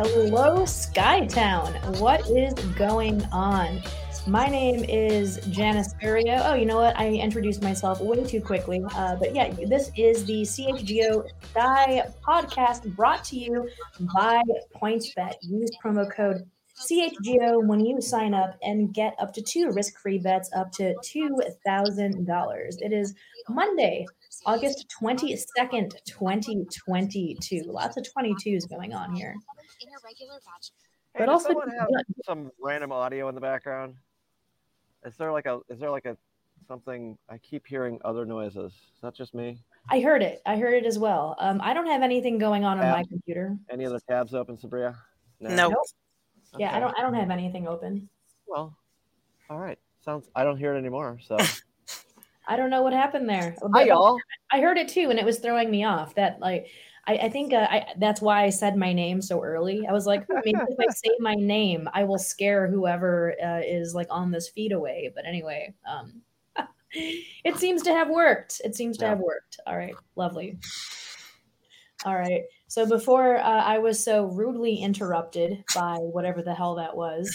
Hello, Skytown. What is going on? My name is Janice Furio. Oh, you know what? I introduced myself way too quickly. But yeah, this is the CHGO Sky podcast brought to you by PointsBet. Use promo code CHGO when you sign up and get up to two risk-free bets up to $2,000. It is Monday, August 22nd, 2022. Lots of 22s going on here. Hey, But does also, someone have some random audio in the background? Is there like a something? I keep hearing other noises. Is that just me? I heard it. I heard it as well. I don't have anything going on my Tabs? computer. Any other tabs open, Sabria? No. Nope. Nope. Yeah, Okay. I don't have anything open. Well, all right. I don't hear it anymore. So I don't know what happened there. hi, y'all. I heard it too, and it was throwing me off. That I think that's why I said my name so early. I was like, maybe if I say my name, I will scare whoever is like on this feed away. But anyway, it seems to have worked. It seems to have worked. All right, lovely. All right. So before I was so rudely interrupted by whatever the hell that was,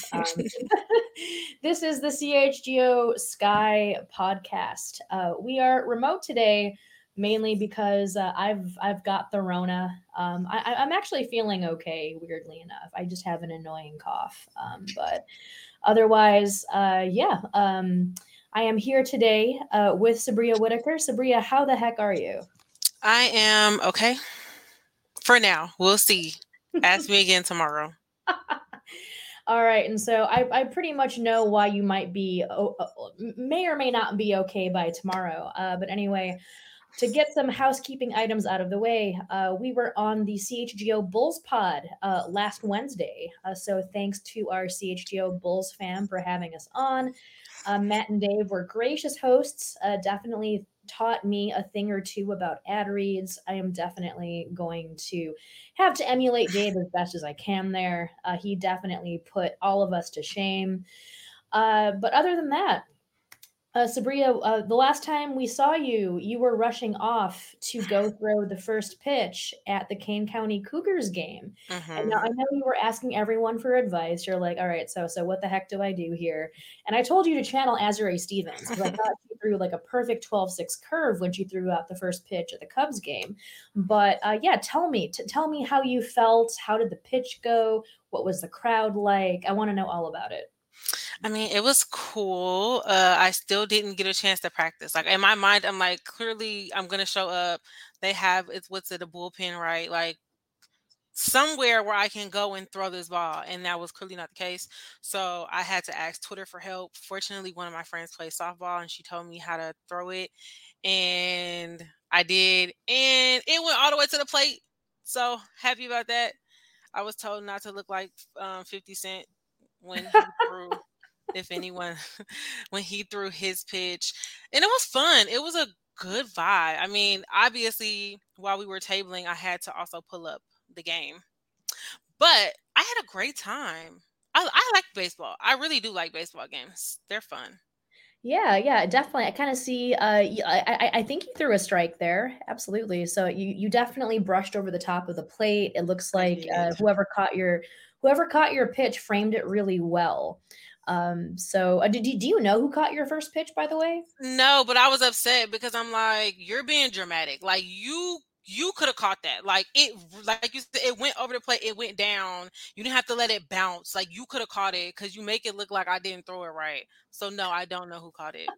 this is the CHGO Sky podcast. We are remote today, mainly because I've got the Rona. I'm actually feeling okay, weirdly enough. I just have an annoying cough, but otherwise, yeah. I am here today with Sabria Whitaker. Sabria, how the heck are you? I am okay. For now, we'll see. Ask me again tomorrow. All right, and so I pretty much know why you might be may or may not be okay by tomorrow. But anyway, to get some housekeeping items out of the way, we were on the CHGO Bulls pod last Wednesday. So thanks to our CHGO Bulls fam for having us on. Matt and Dave were gracious hosts. Definitely taught me a thing or two about ad reads. I am definitely going to have to emulate Dave as best as I can there. He definitely put all of us to shame. But other than that, Sabria, the last time we saw you, you were rushing off to go throw the first pitch at the Kane County Cougars game. And now I know you were asking everyone for advice. You're like, all right, so what the heck do I do here? And I told you to channel Azure Stevens because I thought she threw like a perfect 12-6 curve when she threw out the first pitch at the Cubs game. But yeah, tell me how you felt. How did the pitch go? What was the crowd like? I want to know all about it. I mean, it was cool. I still didn't get a chance to practice. Like in my mind, I'm like, clearly I'm gonna show up. They have a bullpen, right? Like somewhere where I can go and throw this ball. And that was clearly not the case. So I had to ask Twitter for help. Fortunately, one of my friends plays softball and she told me how to throw it. And I did. And it went all the way to the plate. So happy about that. I was told not to look like 50 Cent when he threw, if anyone, when he threw his pitch. And it was fun. It was a good vibe. I mean, obviously, while we were tabling, I had to also pull up the game. But I had a great time. I like baseball. I really do like baseball games. They're fun. Yeah, definitely. I kind of see. I think you threw a strike there. Absolutely. So you definitely brushed over the top of the plate. It looks like whoever caught your pitch framed it really well. So do you know who caught your first pitch, by the way? No, but I was upset because I'm like, you're being dramatic. Like you could have caught that. Like you said, it went over the plate, it went down. You didn't have to let it bounce. Like you could have caught it because you make it look like I didn't throw it right. So no, I don't know who caught it.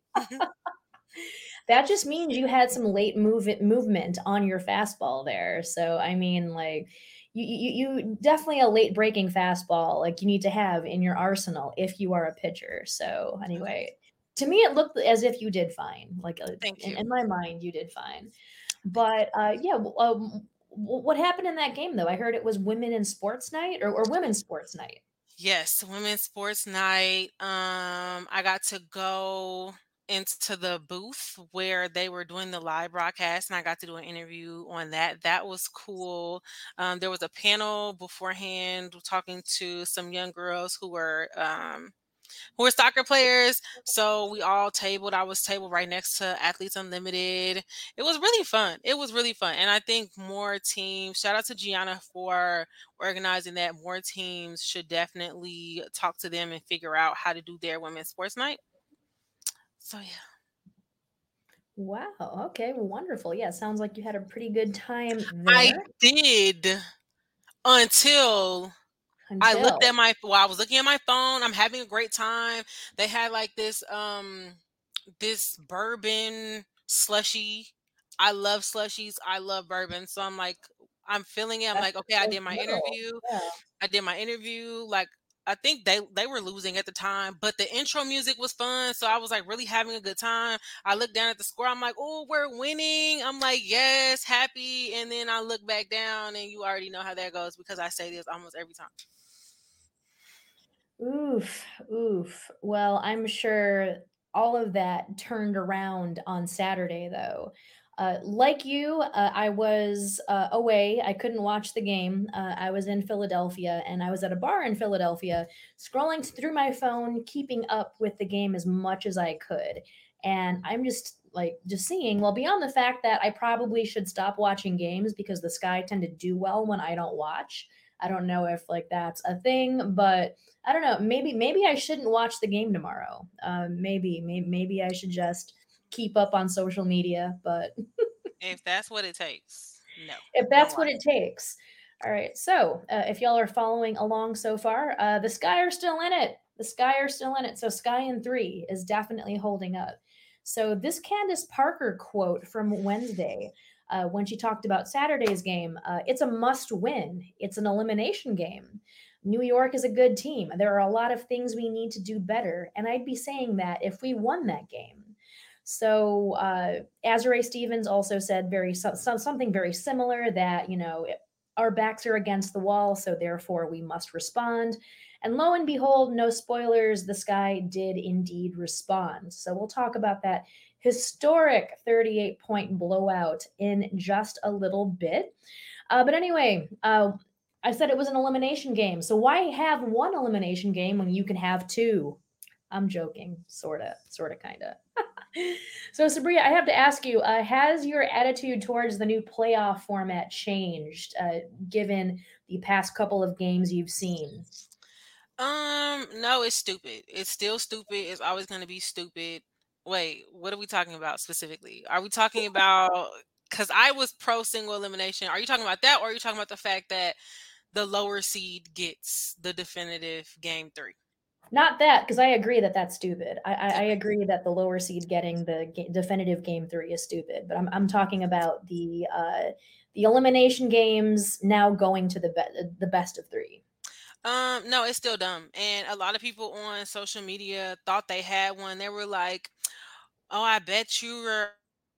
That just means you had some late movement on your fastball there. So I mean, like you definitely a late breaking fastball like you need to have in your arsenal if you are a pitcher. So anyway, to me it looked as if you did fine. Like Thank you. in my mind, you did fine. But yeah, what happened in that game though? I heard it was women in sports night or women's sports night. Yes, women's sports night. I got to go into the booth where they were doing the live broadcast, and I got to do an interview on that. That was cool. There was a panel beforehand talking to some young girls who were who are soccer players. So we all tabled. I was tabled right next to Athletes Unlimited. It was really fun. It was really fun. And I think more teams, shout out to Gianna for organizing that. More teams should definitely talk to them and figure out how to do their women's sports night. So yeah. Wow. Okay. Well, wonderful. Yeah. Sounds like you had a pretty good time I there did until I looked until. at my I was looking at my phone. I'm having a great time. They had like this bourbon slushy. I love slushies. I love bourbon. So I'm feeling it. I'm That's like, okay, I so did my little. interview. Yeah. I did my interview. Like I think they were losing at the time, but the intro music was fun. So I was like really having a good time. I looked down at the score. I'm like, oh, we're winning. I'm like, yes, happy. And then I look back down and you already know how that goes because I say this almost every time. Oof, oof. Well, I'm sure all of that turned around on Saturday, though. Like you, I was away. I couldn't watch the game. I was in Philadelphia and I was at a bar in Philadelphia, scrolling through my phone, keeping up with the game as much as I could. And I'm just seeing, well, beyond the fact that I probably should stop watching games because the Sky tend to do well when I don't watch. I don't know if like that's a thing, but I don't know. Maybe I shouldn't watch the game tomorrow. Maybe I should just keep up on social media. But If that's what it takes, no, if don't that's what watch. it takes, all right. So if y'all are following along so far, the Sky are still in it. The Sky are still in it. So Sky in 3 is definitely holding up. So this Candace Parker quote from Wednesday. When she talked about Saturday's game, it's a must win. It's an elimination game. New York is a good team. There are a lot of things we need to do better. And I'd be saying that if we won that game. So Azure Stevens also said something very similar that, our backs are against the wall, so therefore we must respond. And lo and behold, no spoilers, the Sky did indeed respond. So we'll talk about that historic 38-point blowout in just a little bit. But anyway, I said it was an elimination game. So why have one elimination game when you can have two? I'm joking, sorta, kinda. So Sabria, I have to ask you: has your attitude towards the new playoff format changed, given the past couple of games you've seen? No, it's stupid. It's still stupid. It's always going to be stupid. Wait, what are we talking about specifically? Are we talking about because I was pro single elimination? Are you talking about that, or are you talking about the fact that the lower seed gets the definitive game 3? Not that, because I agree that that's stupid. I Okay. agree that the lower seed getting the definitive game 3 is stupid. But I'm talking about the elimination games now going to the best of 3. No, it's still dumb. And a lot of people on social media thought they had one. They were like, "Oh, I bet you were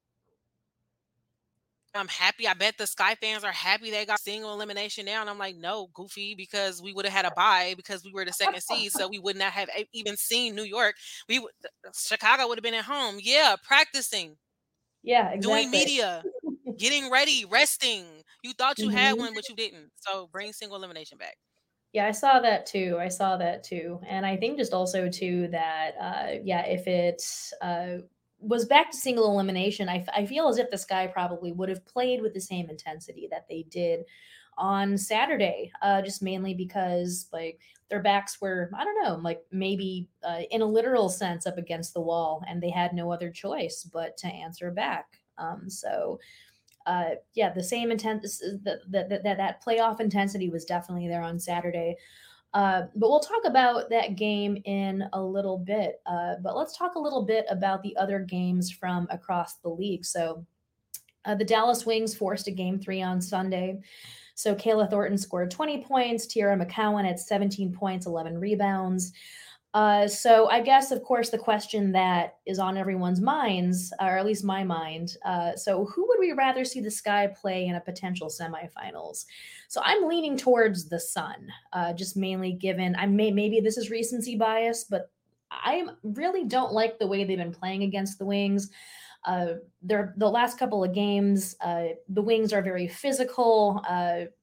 I'm happy. I bet the Sky fans are happy they got single elimination now." And I'm like, no, goofy, because we would have had a bye because we were the second seed. So we would not have even seen New York. Chicago would have been at home. Yeah, practicing, Yeah, doing exactly. media, getting ready, resting. You thought you had Mhm. one, but you didn't. So bring single elimination back. Yeah, I saw that too. I saw that too. And I think just also too that yeah, if it was back to single elimination, I feel as if the Sky probably would have played with the same intensity that they did on Saturday, just mainly because like their backs were, I don't know, like maybe in a literal sense up against the wall, and they had no other choice but to answer back. So yeah, the same intent that playoff intensity was definitely there on Saturday. But we'll talk about that game in a little bit. But let's talk a little bit about the other games from across the league. So the Dallas Wings forced a game 3 on Sunday. So Kayla Thornton scored 20 points, Tiara McCowan had 17 points, 11 rebounds. So I guess, of course, the question that is on everyone's minds, or at least my mind, so who would we rather see the Sky play in a potential semifinals? So I'm leaning towards the Sun, just mainly given maybe this is recency bias, but I really don't like the way they've been playing against the Wings. The last couple of games, the Wings are very physical.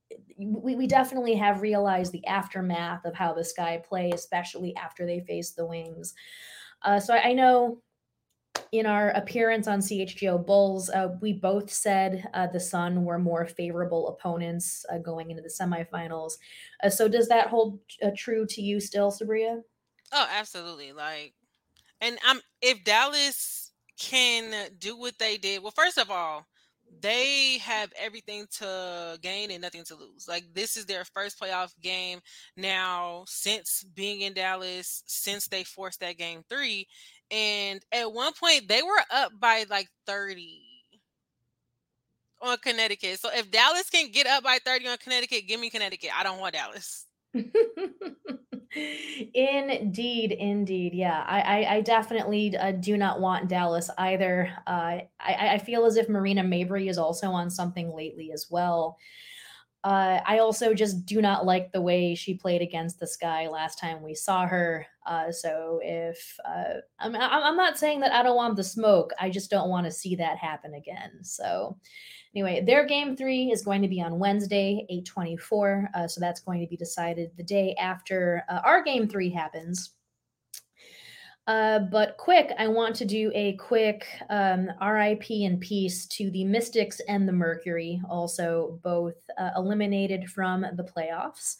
we definitely have realized the aftermath of how the Sky play, especially after they face the Wings. So I know in our appearance on CHGO Bulls, we both said the Sun were more favorable opponents going into the semifinals. So does that hold true to you still, Sabria? Oh, absolutely. Like, and I'm if Dallas can do what they did, well, first of all, they have everything to gain and nothing to lose. Like, this is their first playoff game now since being in Dallas, since they forced that game 3. And at one point they were up by like 30 on Connecticut. So if Dallas can get up by 30 on Connecticut, give me Connecticut. I don't want Dallas. Indeed, indeed. Yeah, I definitely do not want Dallas either. I feel as if Marina Mabry is also on something lately as well. I also just do not like the way she played against the Sky last time we saw her. So if I'm not saying that I don't want the smoke, I just don't want to see that happen again. So anyway, their game 3 is going to be on Wednesday, 8/24. So that's going to be decided the day after our game 3 happens. But quick, I want to do a quick RIP and peace to the Mystics and the Mercury, also both eliminated from the playoffs.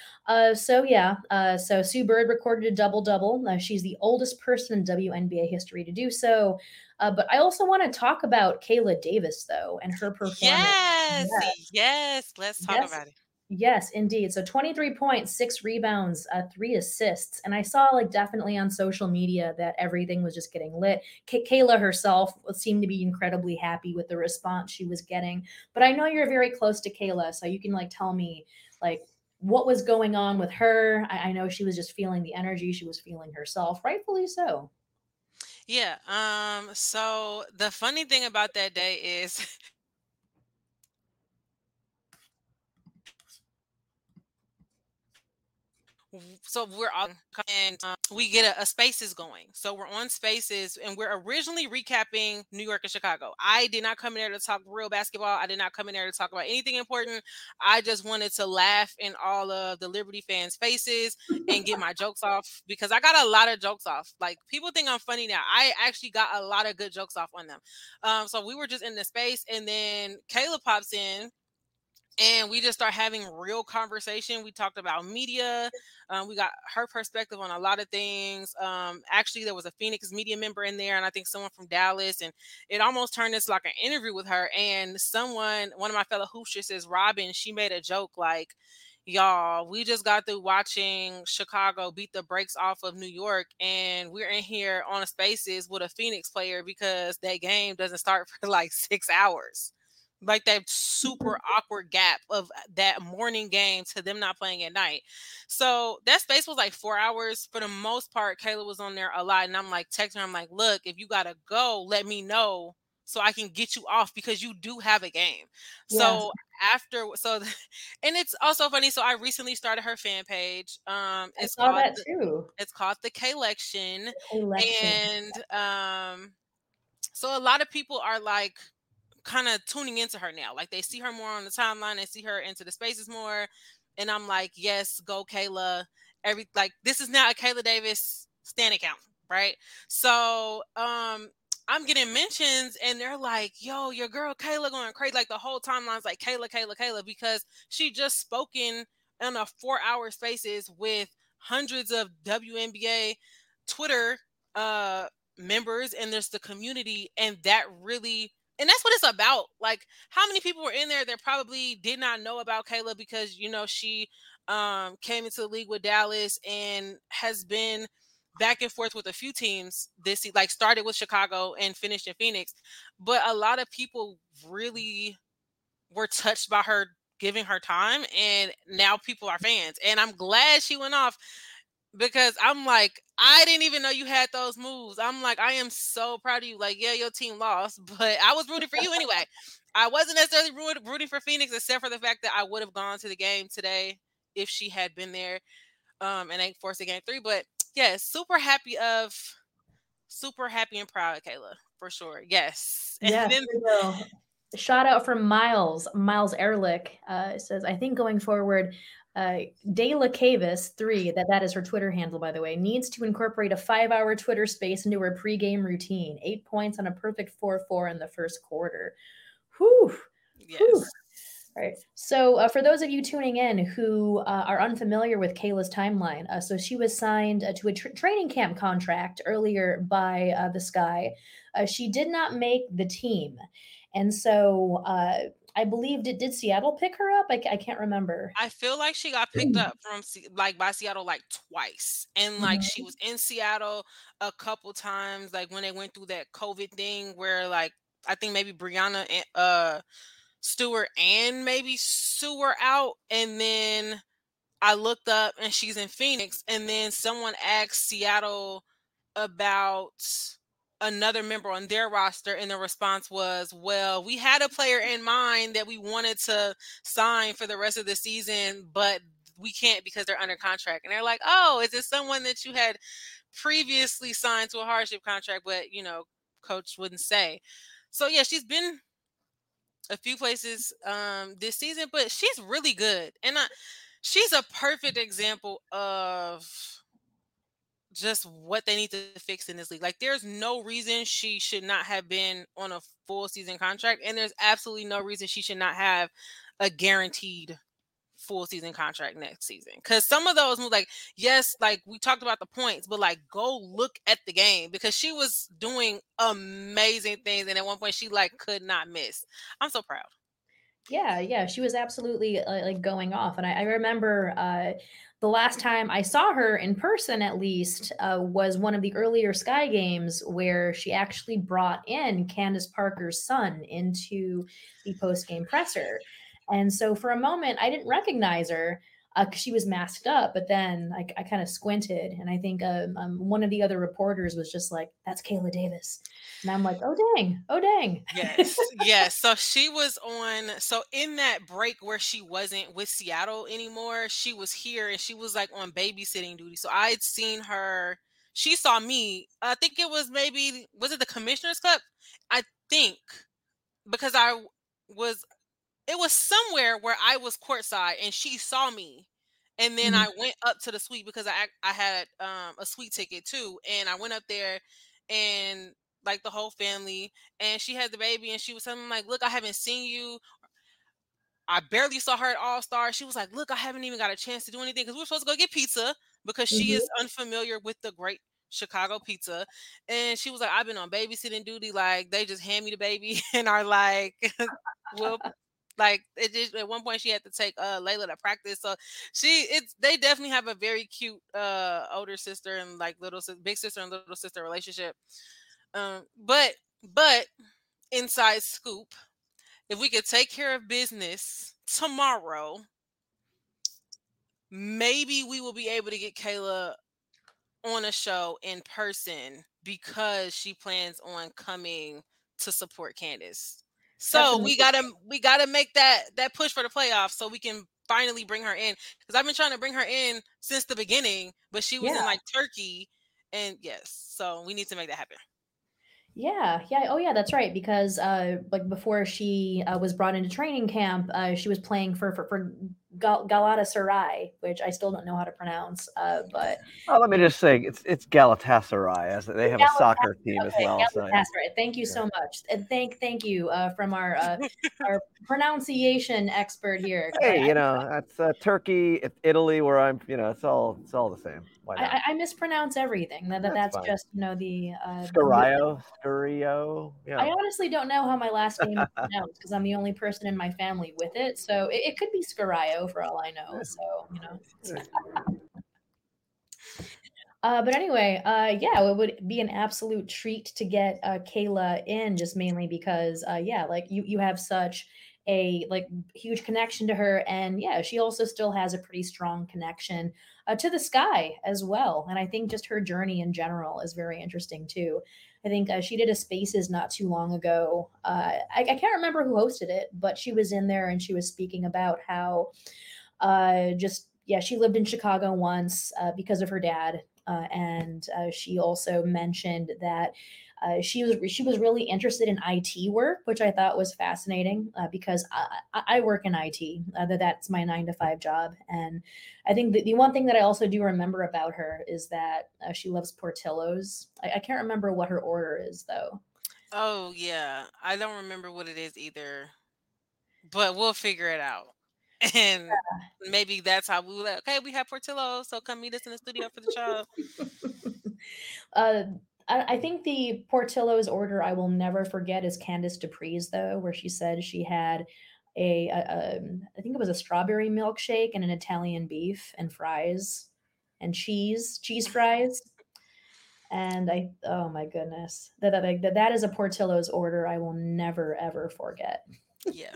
So Sue Bird recorded a double-double. She's the oldest person in WNBA history to do so. But I also want to talk about Kayla Davis, though, and her performance. Yes. Let's talk Yes. about it. Yes, indeed. So 23 points, 6 rebounds, 3 assists. And I saw definitely on social media that everything was just getting lit. Kayla herself seemed to be incredibly happy with the response she was getting. But I know you're very close to Kayla, so you can tell me what was going on with her. I know she was just feeling the energy. She was feeling herself, rightfully so. Yeah. So the funny thing about that day is so we're all and we get a spaces going. So we're on spaces and we're originally recapping New York and Chicago. I did not come in there to talk real basketball. I did not come in there to talk about anything important. I just wanted to laugh in all of the Liberty fans' faces and get my jokes off because I got a lot of jokes off. Like, people think I'm funny now. I actually got a lot of good jokes off on them. So we were just in the space, and then Kayla pops in and we just start having real conversation. We talked about media. We got her perspective on a lot of things. Actually, there was a Phoenix media member in there, and I think someone from Dallas, and it almost turned into like an interview with her. And one of my fellow hoopsters, says Robin, she made a joke like, y'all, we just got through watching Chicago beat the brakes off of New York, and we're in here on a spaces with a Phoenix player because that game doesn't start for like 6 hours. Like, that super awkward gap of that morning game to them not playing at night. So that space was like 4 hours. For the most part, Kayla was on there a lot. And I'm like texting her, I'm like, look, if you gotta go, let me know so I can get you off because you do have a game. Yes. So and it's also funny. So I recently started her fan page. I saw that too. It's called the Kaylection. Kaylection. And so a lot of people are like kind of tuning into her now. Like, they see her more on the timeline, they see her into the spaces more. And I'm like, yes, go Kayla. This is now a Kayla Davis stan account, right? So I'm getting mentions and they're like, yo, your girl Kayla going crazy. Like, the whole timeline's like Kayla, because she just spoken in a 4-hour spaces with hundreds of WNBA Twitter members, and there's the community, and that's what it's about. Like, how many people were in there that probably did not know about Kayla because she came into the league with Dallas and has been back and forth with a few teams this like started with Chicago and finished in Phoenix. But a lot of people really were touched by her giving her time, and now people are fans. And I'm glad she went off because I'm like, I didn't even know you had those moves. I'm like, I am so proud of you. Like, yeah, your team lost, but I was rooting for you anyway. I wasn't necessarily rooting for Phoenix, except for the fact that I would have gone to the game today if she had been there and they forced a game 3. But yeah, super happy and proud of Kayla, for sure. Yes. And Yes, then we will. Shout out from Miles Ehrlich. Says, I think going forward, De La Cavis 3, that is her Twitter handle, by the way, needs to incorporate a 5-hour Twitter space into her pregame routine. 8 points on a perfect 4-4 in the first quarter. Whew. Yes. Whew. All right. So, for those of you tuning in who are unfamiliar with Kayla's timeline, so she was signed to a training camp contract earlier by the Sky. She did not make the team, and so I believe did Seattle pick her up? I can't remember. I feel like she got picked up from like by Seattle like twice, and like she Mhm. was in Seattle a couple times, like when they went through that COVID thing, where like I think maybe Brianna and Stewart and maybe Sue were out, and then I looked up and she's in Phoenix, and then someone asked Seattle about another member on their roster, and the response was, well, we had a player in mind that we wanted to sign for the rest of the season, but we can't because they're under contract. And they're like, oh, is it someone that you had previously signed to a hardship contract, but coach wouldn't say. So yeah, she's been a few places this season, but she's really good. And she's a perfect example of just what they need to fix in this league. Like, there's no reason she should not have been on a full season contract, and there's absolutely no reason she should not have a guaranteed full season contract next season. Because some of those moves, like, yes, like we talked about the points, but like go look at the game, because she was doing amazing things, and at one point she like could not miss. I'm so proud. Yeah, she was absolutely like going off, and I remember the last time I saw her in person, at least, was one of the earlier Sky games where she actually brought in Candace Parker's son into the post game presser, and so for a moment I didn't recognize her. 'Cause she was masked up, but then I kind of squinted, and I think one of the other reporters was just like, "That's Kayla Davis," and I'm like, "Oh dang, oh dang." Yes. So she was so in that break where she wasn't with Seattle anymore, she was here and she was like on babysitting duty. So I had seen her. She saw me. I think it was was it the Commissioner's Cup? I think, because it was somewhere where I was courtside and she saw me. And then Mhm. I went up to the suite because I had a suite ticket too. And I went up there, and like the whole family, and she had the baby, and she was telling me like, look, I haven't seen you. I barely saw her at All Star. She was like, look, I haven't even got a chance to do anything because we were supposed to go get pizza, because she Mhm. is unfamiliar with the great Chicago pizza. And she was like, I've been on babysitting duty. Like, they just hand me the baby and are like, well, like it just, at one point she had to take Layla to practice. So they definitely have a very cute older sister and like big sister and little sister relationship. But inside scoop, if we could take care of business tomorrow, maybe we will be able to get Kayla on a show in person, because she plans on coming to support Candace. That's So amazing. we gotta make that push for the playoffs so we can finally bring her in. Because I've been trying to bring her in since the beginning, but she was Yeah. in like Turkey, and yes, so we need to make that happen. Yeah. Oh, yeah, that's right. Because like before she was brought into training camp, she was playing for Galatasaray, which I still don't know how to pronounce. But Oh, let me just say, it's Galatasaray, as they have a soccer team as Okay, well. So yeah. Galatasaray. Thank you so much, and thank you from our pronunciation expert here. 'Cause Hey, that's Turkey, it's Italy, where I'm. It's all the same. Why not? I mispronounce everything. That's That's fine. just the Scurio. I Yeah. honestly don't know how my last name is pronounced because I'm the only person in my family with it. So it could be Scario for all I know. So. But anyway, yeah, it would be an absolute treat to get Kayla in, just mainly because, yeah, like you have such a like huge connection to her, and yeah, she also still has a pretty strong connection to the Sky as well. And I think just her journey in general is very interesting too. I think she did a Spaces not too long ago. I can't remember who hosted it, but she was in there and she was speaking about how just yeah, she lived in Chicago once because of her dad, and she also mentioned that she was really interested in IT work, which I thought was fascinating because I work in IT. That's my 9 to 5 job, and I think the one thing that I also do remember about her is that she loves Portillo's. I can't remember what her order is though. Oh yeah, I don't remember what it is either, but we'll figure it out. And maybe that's how we were like, okay, we have Portillo, so come meet us in the studio for the show. uh, I think the Portillo's order I will never forget is Candice Dupree's though, where she said she had I think it was a strawberry milkshake and an Italian beef and fries and cheese fries. And oh my goodness, that is a Portillo's order I will never ever forget. Yeah.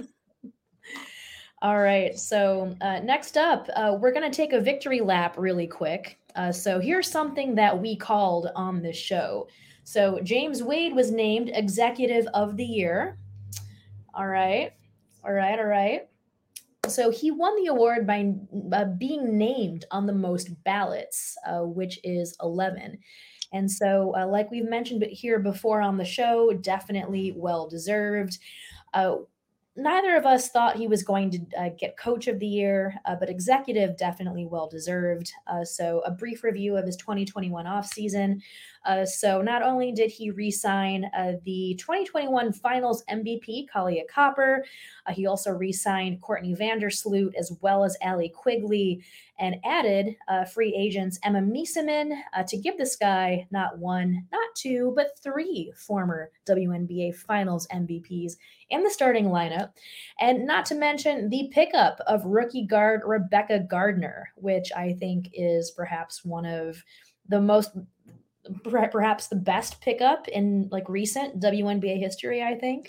All right, so next up, we're going to take a victory lap really quick. So here's something that we called on this show. So James Wade was named Executive of the Year. All right, all right, all right. So he won the award by being named on the most ballots, which is 11. And so, like we've mentioned here before on the show, definitely well deserved. Uh, Neither of us thought he was going to get Coach of the Year, but executive definitely well deserved. So, a brief review of his 2021 offseason. So, not only did he re sign the 2021 Finals MVP, Kalia Copper, he also re signed Courtney Vandersloot as well as Allie Quigley and added free agents Emma Mieseman to give this guy not one, not two, but three former WNBA Finals MVPs in the starting lineup. And not to mention the pickup of rookie guard Rebecca Gardner, which I think is perhaps one of the most, perhaps the best pickup in like recent WNBA history, I think.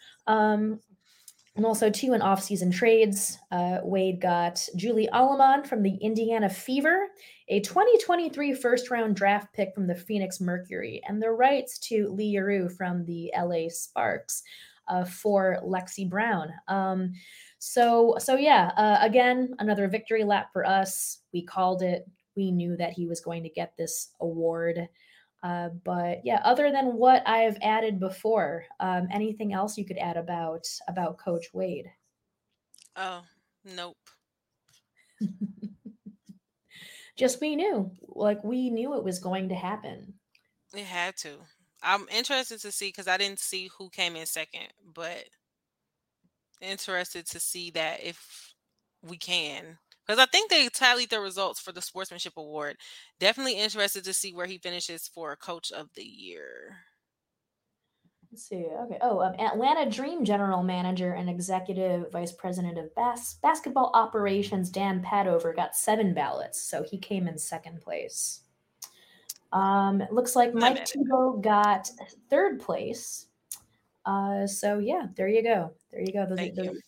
And also, two in off-season trades. Wade got Julie Alleman from the Indiana Fever, a 2023 first-round draft pick from the Phoenix Mercury, and the rights to Lee Yarou from the LA Sparks for Lexi Brown. So yeah, again, another victory lap for us. We called it. We knew that he was going to get this award. But yeah, other than what I've added before, anything else you could add about Coach Wade? Oh, nope. Just we knew it was going to happen. It had to. I'm interested to see because I didn't see who came in second, but interested to see that if we can. Because I think they tallied the results for the Sportsmanship Award. Definitely interested to see where he finishes for Coach of the Year. Let's see. Okay. Oh, Atlanta Dream General Manager and Executive Vice President of Basketball Operations Dan Padover got 7 ballots, so he came in second place. It looks like Mike Thibault got 3rd place. So yeah, there you go. There you go. Those Thank are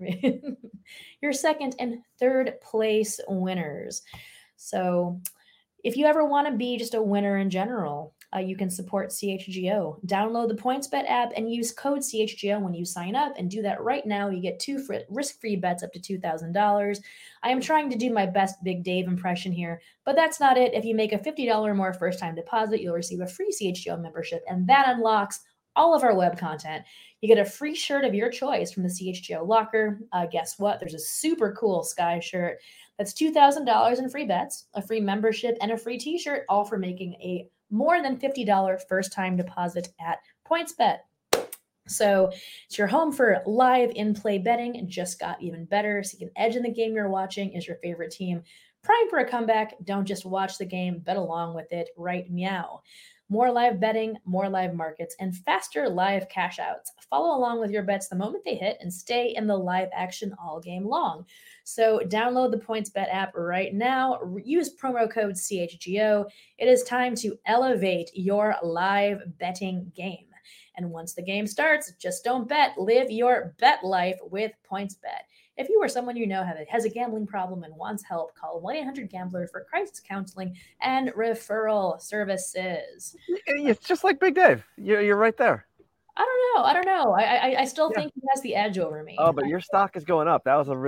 your second and third place winners. So if you ever want to be just a winner in general, you can support CHGO. Download the PointsBet app and use code CHGO when you sign up, and do that right now. You get 2 risk-free bets up to $2,000. I am trying to do my best Big Dave impression here, but that's not it. If you make a $50 or more first-time deposit, you'll receive a free CHGO membership, and that unlocks all of our web content. You get a free shirt of your choice from the CHGO locker. Guess what? There's a super cool Sky shirt that's $2,000 in free bets, a free membership, and a free t-shirt, all for making a more than $50 first-time deposit at PointsBet. So it's your home for live in-play betting. It just got even better. So you can edge in the game you're watching. Is your favorite team prime for a comeback? Don't just watch the game, bet along with it. Right meow. More live betting, more live markets, and faster live cash outs. Follow along with your bets the moment they hit and stay in the live action all game long. So download the PointsBet app right now. Use promo code CHGO. It is time to elevate your live betting game. And once the game starts, just don't bet. Live your bet life with PointsBet. If you or someone you know has a gambling problem and wants help, call 1-800-GAMBLER for crisis counseling and referral services. It's just like Big Dave. You're right there. I don't know. I still think he has the edge over me. Oh, but your stock is going up. That was a really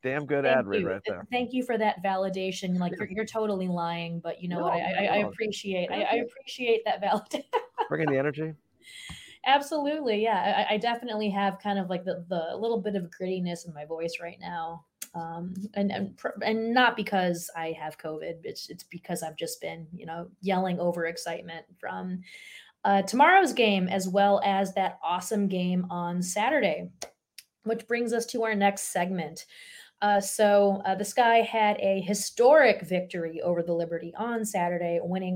Damn good Thank ad read you. right there. Thank you for that validation. Like you're totally lying, but you know what? I appreciate I appreciate that validation. Bringing the energy. Absolutely, yeah. I definitely have kind of like the little bit of grittiness in my voice right now, and not because I have COVID. It's because I've just been yelling over excitement from tomorrow's game as well as that awesome game on Saturday, which brings us to our next segment. The Sky had a historic victory over the Liberty on Saturday, winning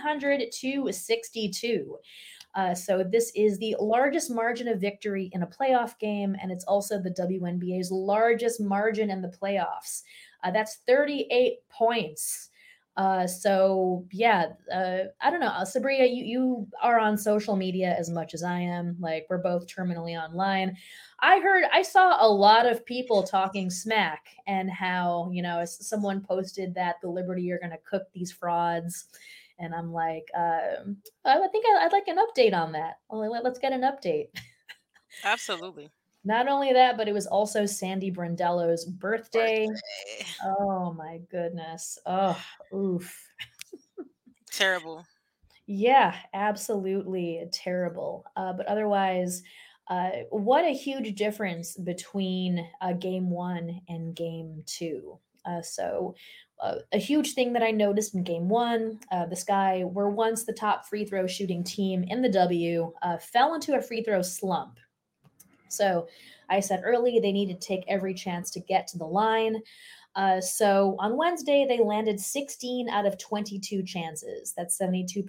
100-62. So this is the largest margin of victory in a playoff game, and it's also the WNBA's largest margin in the playoffs. That's 38 points. I don't know, Sabria, you are on social media as much as I am. Like we're both terminally online. I saw a lot of people talking smack and how someone posted that the Liberty are going to cook these frauds. And I'm like, I think I'd like an update on that. Let's get an update. Absolutely. Not only that, but it was also Sandy Brondello's birthday. Oh my goodness. Oh, oof. Terrible. Yeah, absolutely terrible. But otherwise, what a huge difference between game one and game two. A huge thing that I noticed in game one, the Sky were once the top free throw shooting team in the W, fell into a free throw slump. So I said early they needed to take every chance to get to the line. So on Wednesday, they landed 16 out of 22 chances. That's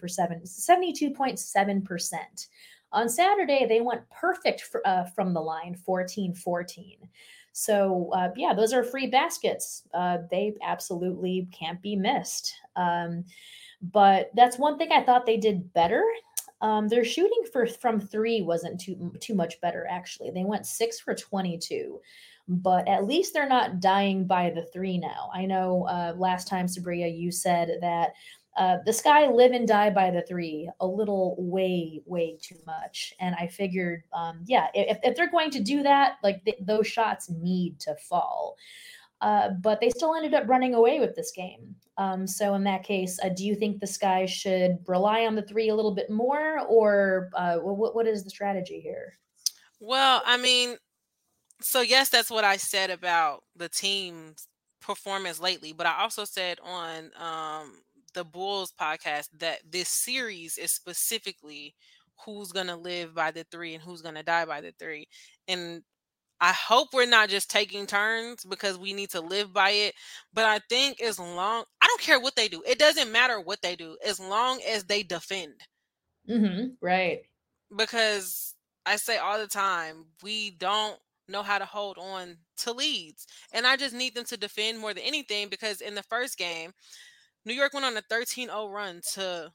72.7%. On Saturday, they went perfect from the line, 14-14. So, those are free baskets. They absolutely can't be missed. But that's one thing I thought they did better. Their shooting from three wasn't too much better, actually. They went 6 for 22. But at least they're not dying by the three now. I know last time, Sabria, you said that the Sky live and die by the three a little way too much. And I figured, if they're going to do that, like those shots need to fall. But they still ended up running away with this game. So in that case, do you think the Sky should rely on the three a little bit more, or what is the strategy here? Well, I mean, so yes, that's what I said about the team's performance lately, but I also said on the Bulls podcast that this series is specifically who's going to live by the three and who's going to die by the three. And I hope we're not just taking turns because we need to live by it. But I think I don't care what they do. It doesn't matter what they do as long as they defend. Mm-hmm. Right. Because I say all the time, we don't know how to hold on to leads. And I just need them to defend more than anything, because in the first game, New York went on a 13-0 run to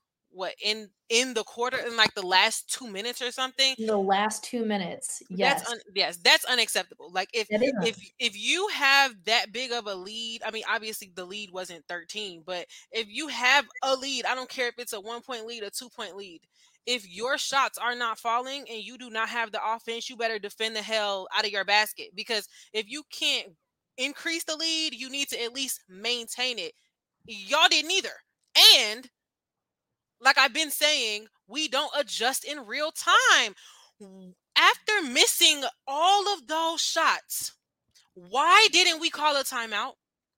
in the quarter, in like the last 2 minutes or something. In the last 2 minutes. Yes. That's unacceptable. Like if That is if you have that big of a lead, I mean, obviously the lead wasn't 13, but if you have a lead, I don't care if it's a 1-point lead, a 2-point lead. If your shots are not falling and you do not have the offense, you better defend the hell out of your basket, because if you can't increase the lead, you need to at least maintain it. Y'all didn't either. And like I've been saying, we don't adjust in real time. After missing all of those shots, why didn't we call a timeout?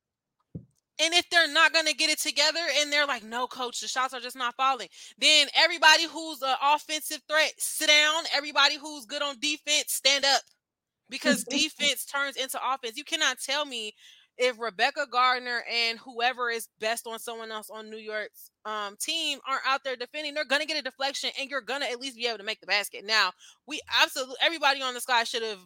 And if they're not going to get it together and they're like, no, coach, the shots are just not falling, then everybody who's an offensive threat, sit down. Everybody who's good on defense, stand up, because defense turns into offense. You cannot tell me if Rebecca Gardner and whoever is best on someone else on New York's team aren't out there defending, they're going to get a deflection and you're going to at least be able to make the basket. Now, everybody on the Sky should have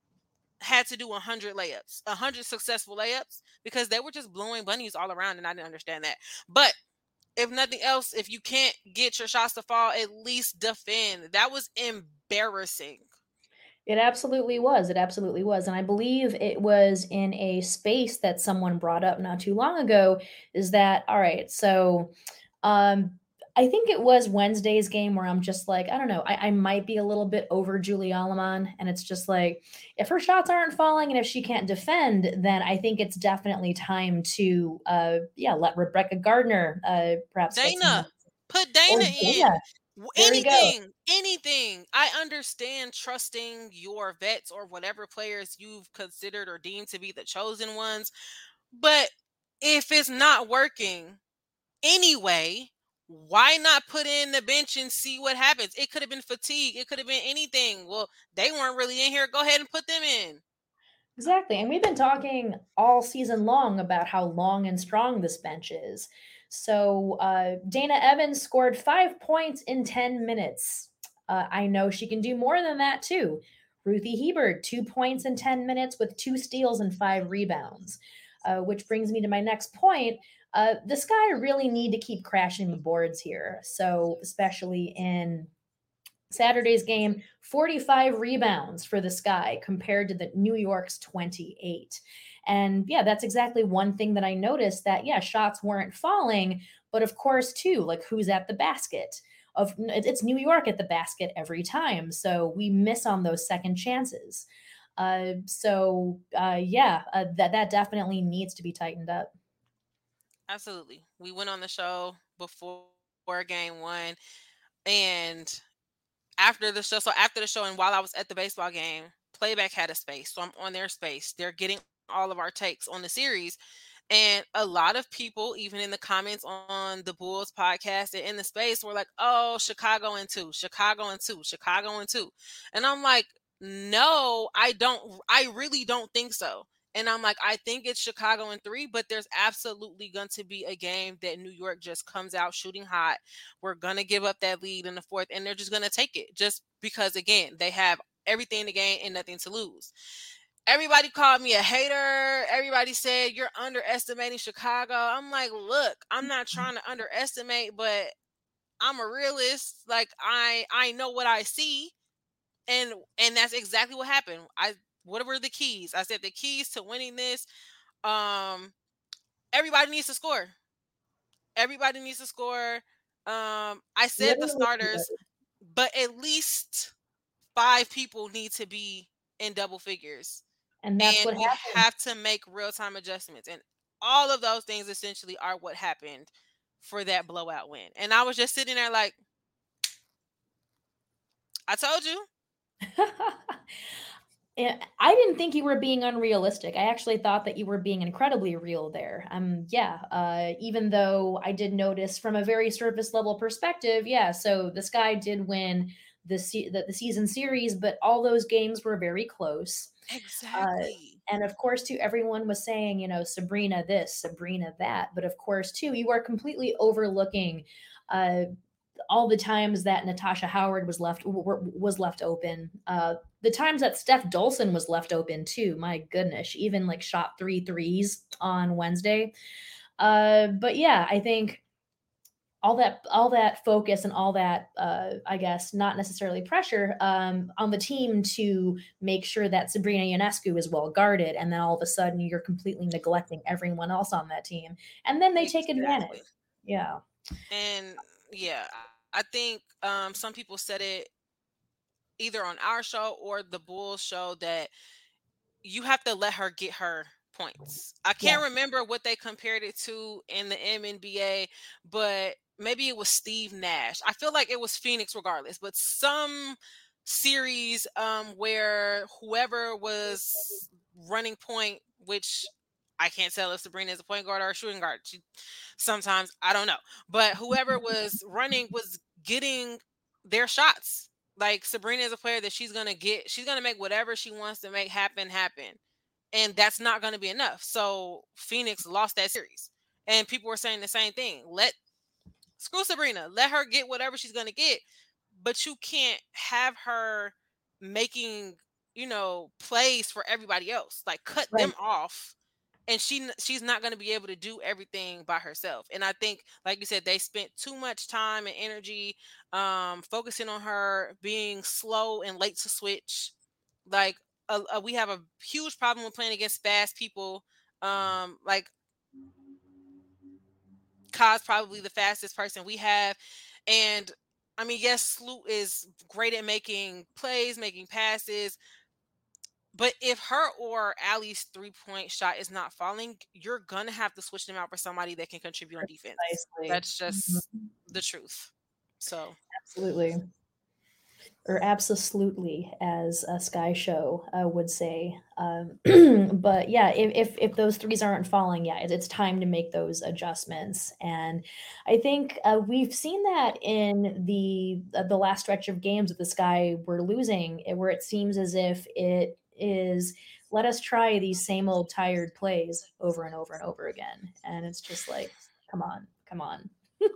had to do 100 layups, 100 successful layups, because they were just blowing bunnies all around, and I didn't understand that. But if nothing else, if you can't get your shots to fall, at least defend. That was embarrassing. It absolutely was. It absolutely was. And I believe it was in a space that someone brought up not too long ago, is that, all right, so I think it was Wednesday's game where I'm just like, I don't know, I might be a little bit over Julie Alleman. And it's just like, if her shots aren't falling and if she can't defend, then I think it's definitely time to, yeah, let Rebecca Gardner perhaps get some Dana, minutes. put Or Dana Dana. in. There we go. Anything. I understand trusting your vets or whatever players you've considered or deemed to be the chosen ones. But if it's not working anyway, why not put in the bench and see what happens? It could have been fatigue. It could have been anything. Well, they weren't really in here. Go ahead and put them in. Exactly. And we've been talking all season long about how long and strong this bench is. So Dana Evans scored 5 points in 10 minutes. I know she can do more than that too. Ruthie Hebert, 2 points in 10 minutes with 2 steals and 5 rebounds. Which brings me to my next point. The Sky really need to keep crashing the boards here. So, especially in Saturday's game, 45 rebounds for the Sky compared to the New York's 28. And yeah, that's exactly one thing that I noticed that, yeah, shots weren't falling. But of course, too, like who's at the basket? It's New York at the basket every time. So we miss on those second chances. That definitely needs to be tightened up. Absolutely. We went on the show before game one, and after the show and while I was at the baseball game, Playback had a space. So I'm on their space. They're getting all of our takes on the series. And a lot of people, even in the comments on the Bulls podcast and in the space, were like, oh, Chicago in two, Chicago in two, Chicago in two. And I'm like, no, I don't. I really don't think so. And I'm like, I think it's Chicago in three, but there's absolutely going to be a game that New York just comes out shooting hot. We're going to give up that lead in the fourth, and they're just going to take it just because, again, they have everything to gain and nothing to lose. Everybody called me a hater. Everybody said you're underestimating Chicago. I'm like, look, I'm not trying to underestimate, but I'm a realist. Like I know what I see, and that's exactly what happened. What were the keys? I said the keys to winning this. Everybody needs to score. Everybody needs to score. I said the Literally, starters, but at least 5 people need to be in double figures. and that's And what we happened. have to make real-time adjustments. And all of those things essentially are what happened for that blowout win. And I was just sitting there like, I told you. I didn't think you were being unrealistic. I actually thought that you were being incredibly real there. Even though I did notice from a very surface level perspective, yeah, so the Sky did win the season series, but all those games were very close. Exactly. And of course, too, everyone was saying, Sabrina this, Sabrina that. But of course, too, you are completely overlooking uh, all the times that Natasha Howard was left open. The times that Steph Dolson was left open too. My goodness, she even like shot 3 threes on Wednesday. But yeah, I think all that focus and all that I guess not necessarily pressure on the team to make sure that Sabrina Ionescu is well guarded, and then all of a sudden you're completely neglecting everyone else on that team, and then they take advantage. Exactly. Yeah. And yeah, I think some people said it either on our show or the Bulls show that you have to let her get her points. I can't Yes. remember what they compared it to in the MNBA, but maybe it was Steve Nash. I feel like it was Phoenix regardless, but some series where whoever was running point, which I can't tell if Sabrina is a point guard or a shooting guard. Sometimes I don't know, but whoever was running was getting their shots. Like Sabrina is a player that she's gonna make whatever she wants to make happen. And that's not gonna be enough. So Phoenix lost that series. And people were saying the same thing. Screw Sabrina. Let her get whatever she's gonna get. But you can't have her making, plays for everybody else. Like cut Right. them off. And she's not going to be able to do everything by herself. And I think, like you said, they spent too much time and energy focusing on her being slow and late to switch. Like we have a huge problem with playing against fast people. Like Ka's probably the fastest person we have. And I mean, yes, Sloot is great at making plays, making passes. But if her or Allie's 3-point shot is not falling, you're going to have to switch them out for somebody that can contribute on defense. Precisely. That's just the truth. So, Absolutely. Or absolutely, as a Sky Show would say. But yeah, if those threes aren't falling, yeah, it's time to make those adjustments. And I think we've seen that in the last stretch of games that the Sky were losing, where it seems as if it is let us try these same old tired plays over and over and over again, and it's just like, come on, come on.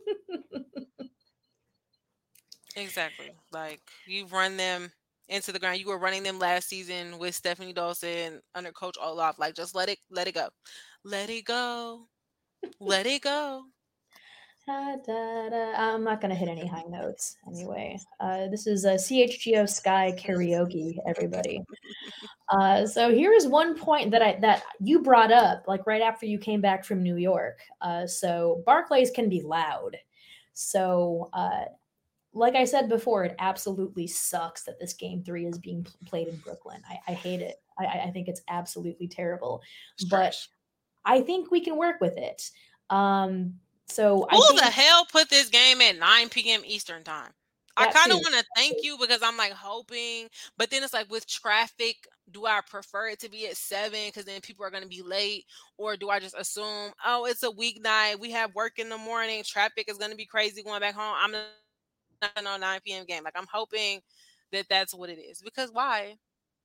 exactly. Like, you've run them into the ground. You were running them last season with Stephanie Dawson under Coach Olaf. Like, just let it go. Let it go. Let it go. Da, da, da. I'm not going to hit any high notes anyway. This is a CHGO Sky karaoke, everybody. So here is one point that you brought up, like right after you came back from New York. So Barclays can be loud. So like I said before, it absolutely sucks that this game 3 is being played in Brooklyn. I hate it. I think it's absolutely terrible. But Trash. I think we can work with it. So I Who think the hell put this game at 9 p.m. Eastern time? I that kind of too. want to thank you because I'm like hoping, but then it's like with traffic, do I prefer it to be at 7 because then people are going to be late, or do I just assume, oh, it's a weeknight, we have work in the morning, traffic is going to be crazy going back home, I'm not on 9 p.m. game. Like, I'm hoping that that's what it is, because why?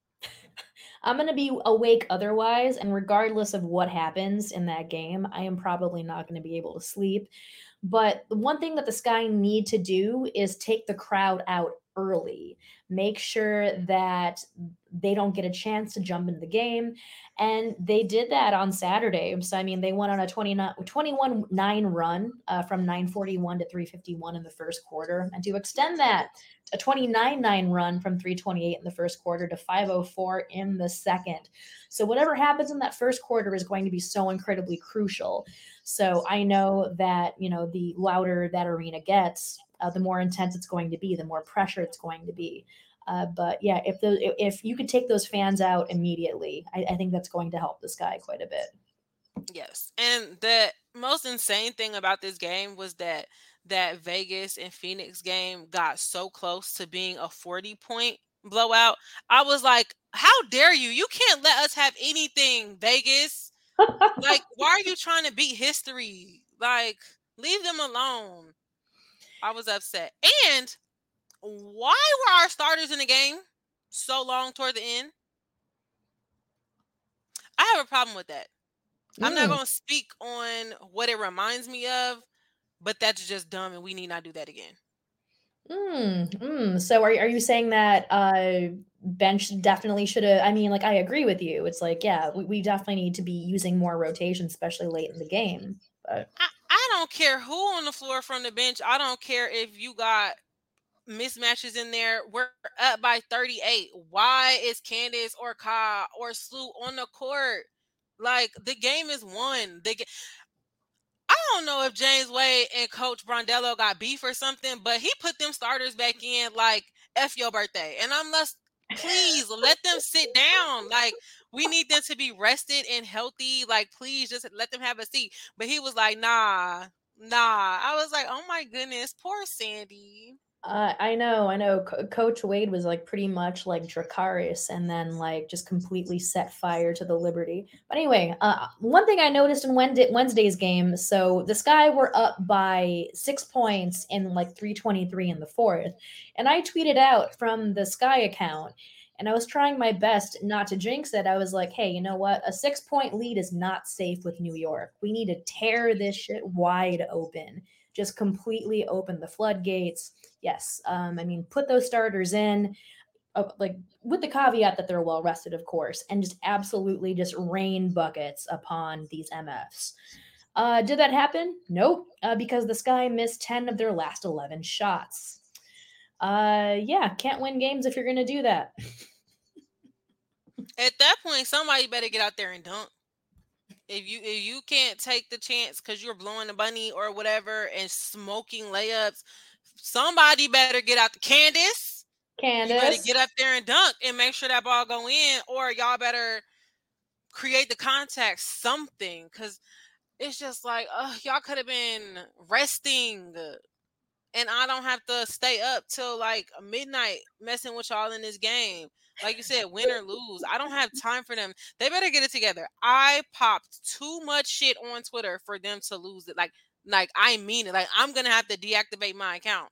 I'm going to be awake otherwise, and regardless of what happens in that game, I am probably not going to be able to sleep. But the one thing that the Sky need to do is take the crowd out early. Make sure that they don't get a chance to jump into the game. And they did that on Saturday. So, I mean, they went on a 21-9 run from 9:41 to 3:51 in the first quarter. And to extend that, a 29-9 run from 3:28 in the first quarter to 5:04 in the second. So whatever happens in that first quarter is going to be so incredibly crucial. So I know that, the louder that arena gets, the more intense it's going to be, the more pressure it's going to be. But yeah, if you could take those fans out immediately, I think that's going to help the Sky quite a bit. Yes. And the most insane thing about this game was that Vegas and Phoenix game got so close to being a 40-point blowout. I was like, how dare you? You can't let us have anything, Vegas. Like, why are you trying to beat history? Like, leave them alone. I was upset. And why were our starters in the game so long toward the end? I have a problem with that. I'm not going to speak on what it reminds me of, but that's just dumb, and we need not do that again. So are you saying that bench definitely should have? I mean, like, I agree with you. It's like, yeah, we definitely need to be using more rotation, especially late in the game. But I don't care who on the floor from the bench. I don't care if you got mismatches in there. We're up by 38. Why is Candace or Ka or Sloot on the court? Like, the game is won. I don't know if James Wade and Coach Brondello got beef or something, but he put them starters back in like F your birthday. And I'm like, please let them sit down. Like, we need them to be rested and healthy. Like, please just let them have a seat. But he was like, nah. I was like, oh my goodness, poor Sandy. I know. Coach Wade was like pretty much like Dracarys, and then like just completely set fire to the Liberty. But anyway, one thing I noticed in Wednesday's game, so the Sky were up by 6 points in like 3:23 in the fourth, and I tweeted out from the Sky account, and I was trying my best not to jinx it. I was like, hey, you know what? A 6-point lead is not safe with New York. We need to tear this shit wide open. Just completely open the floodgates. Yes, I mean, put those starters in, like with the caveat that they're well rested, of course, and just absolutely just rain buckets upon these MFs. Did that happen? Nope, because the Sky missed 10 of their last 11 shots. Yeah, can't win games if you're going to do that. At that point, somebody better get out there and dunk. If you can't take the chance because you're blowing the bunny or whatever and smoking layups, somebody better get out the Candace. You better Candace. get up there and dunk and make sure that ball go in, or y'all better create the contact something, because it's just like, y'all could have been resting and I don't have to stay up till like midnight messing with y'all in this game. Like you said, win or lose. I don't have time for them. They better get it together. I popped too much shit on Twitter for them to lose it. Like I mean it. Like I'm gonna have to deactivate my account.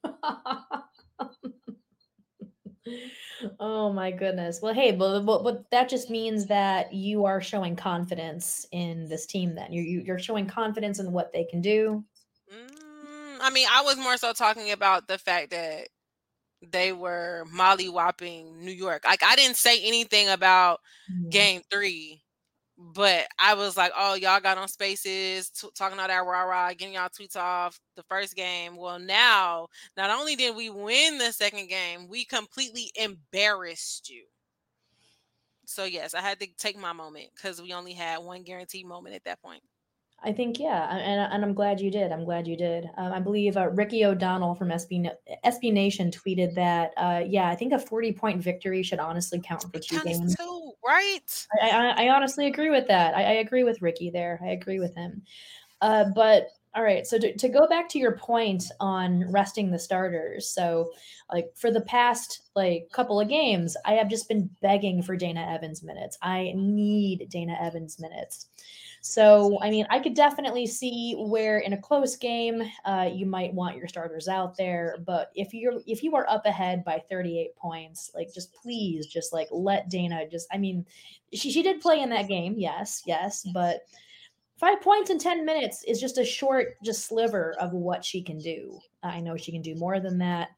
Oh my goodness. Well, hey, but that just means that you are showing confidence in this team. Then you're showing confidence in what they can do. I mean, I was more so talking about the fact that they were mollywhopping New York. Like I didn't say anything about game 3, but I was like, oh, y'all got on Spaces talking all that rah-rah, getting y'all tweets off the first game. Well, now, not only did we win the second game, we completely embarrassed you. So, yes, I had to take my moment because we only had one guaranteed moment at that point. I think, yeah, and I'm glad you did. I'm glad you did. I believe Ricky O'Donnell from SB Nation tweeted that, yeah, I think a 40-point victory should honestly count for 2 games. Too, right? I honestly agree with that. I agree with Ricky there. I agree with him. But all right, so to go back to your point on resting the starters, so like for the past like couple of games, I have just been begging for Dana Evans minutes. I need Dana Evans minutes. So, I mean, I could definitely see where in a close game, you might want your starters out there. But if you are up ahead by 38 points, like just please, just like let Dana just. I mean, she did play in that game, yes, but 5 points in 10 minutes is just a short, just sliver of what she can do. I know she can do more than that.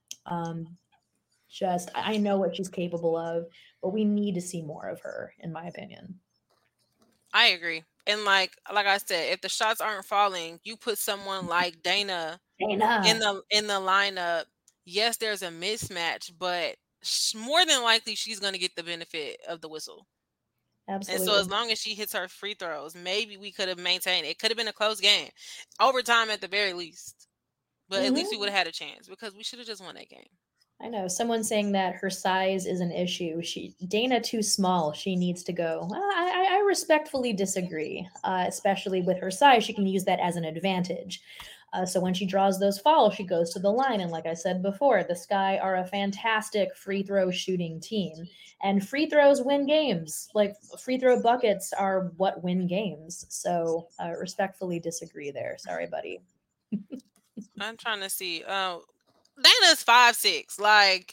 I know what she's capable of, but we need to see more of her, in my opinion. I agree. And like I said, if the shots aren't falling, you put someone like Dana in the lineup. Yes, there's a mismatch, but more than likely she's going to get the benefit of the whistle. Absolutely. And so as long as she hits her free throws, maybe we could have maintained it. It could have been a close game, overtime at the very least. But at least we would have had a chance because we should have just won that game. I know someone saying that her size is an issue. Dana too small. She needs to go. I respectfully disagree. Especially with her size, she can use that as an advantage. So when she draws those fouls, she goes to the line. And like I said before, the Sky are a fantastic free throw shooting team, and free throws win games. Like free throw buckets are what win games. So respectfully disagree there. Sorry, buddy. I'm trying to see. Dana's 5'6". Like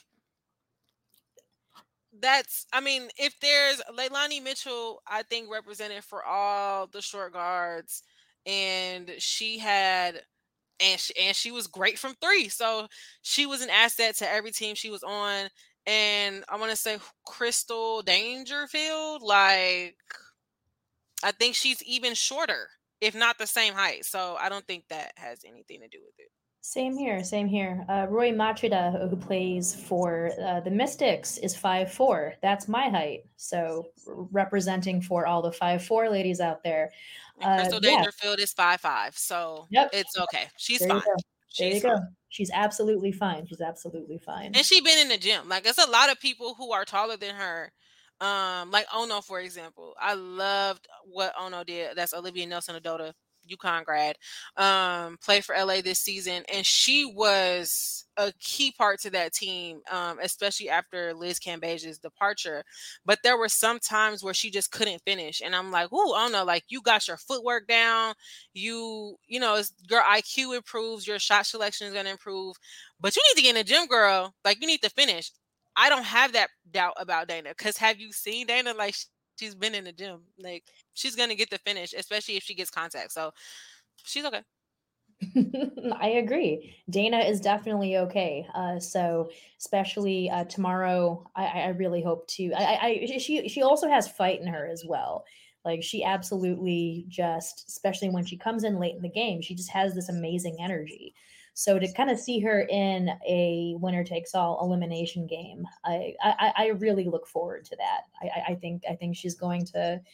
that's. I mean, if there's Leilani Mitchell, I think represented for all the short guards, and she had. And she was great from 3. So she was an asset to every team she was on. And I want to say Crystal Dangerfield, like I think she's even shorter, if not the same height. So I don't think that has anything to do with it. Same here, same here. Roy Machida, who plays for the Mystics, is 5'4". That's my height. So representing for all the 5'4" ladies out there. And Crystal Dangerfield is 5'5". So it's okay. She's fine. There you go. She's absolutely fine. She's absolutely fine. And she's been in the gym. Like there's a lot of people who are taller than her. Like Ono, for example. I loved what Ono did. That's Olivia Nelson-Adota, UConn grad, played for LA this season, and she was a key part to that team, especially after Liz Cambage's departure. But there were some times where she just couldn't finish, and I'm like, "Ooh, I don't know, like you got your footwork down, you know, your IQ improves, your shot selection is going to improve, but you need to get in the gym, girl. Like you need to finish." I don't have that doubt about Dana, because have you seen Dana? Like she's been in the gym, like she's gonna get the finish, especially if she gets contact. So she's okay. I agree. Dana is definitely okay. So especially tomorrow, I really hope to. She also has fight in her as well. Like she absolutely just, especially when she comes in late in the game, she just has this amazing energy. So to kind of see her in a winner takes all elimination game, I really look forward to that. I think she's going to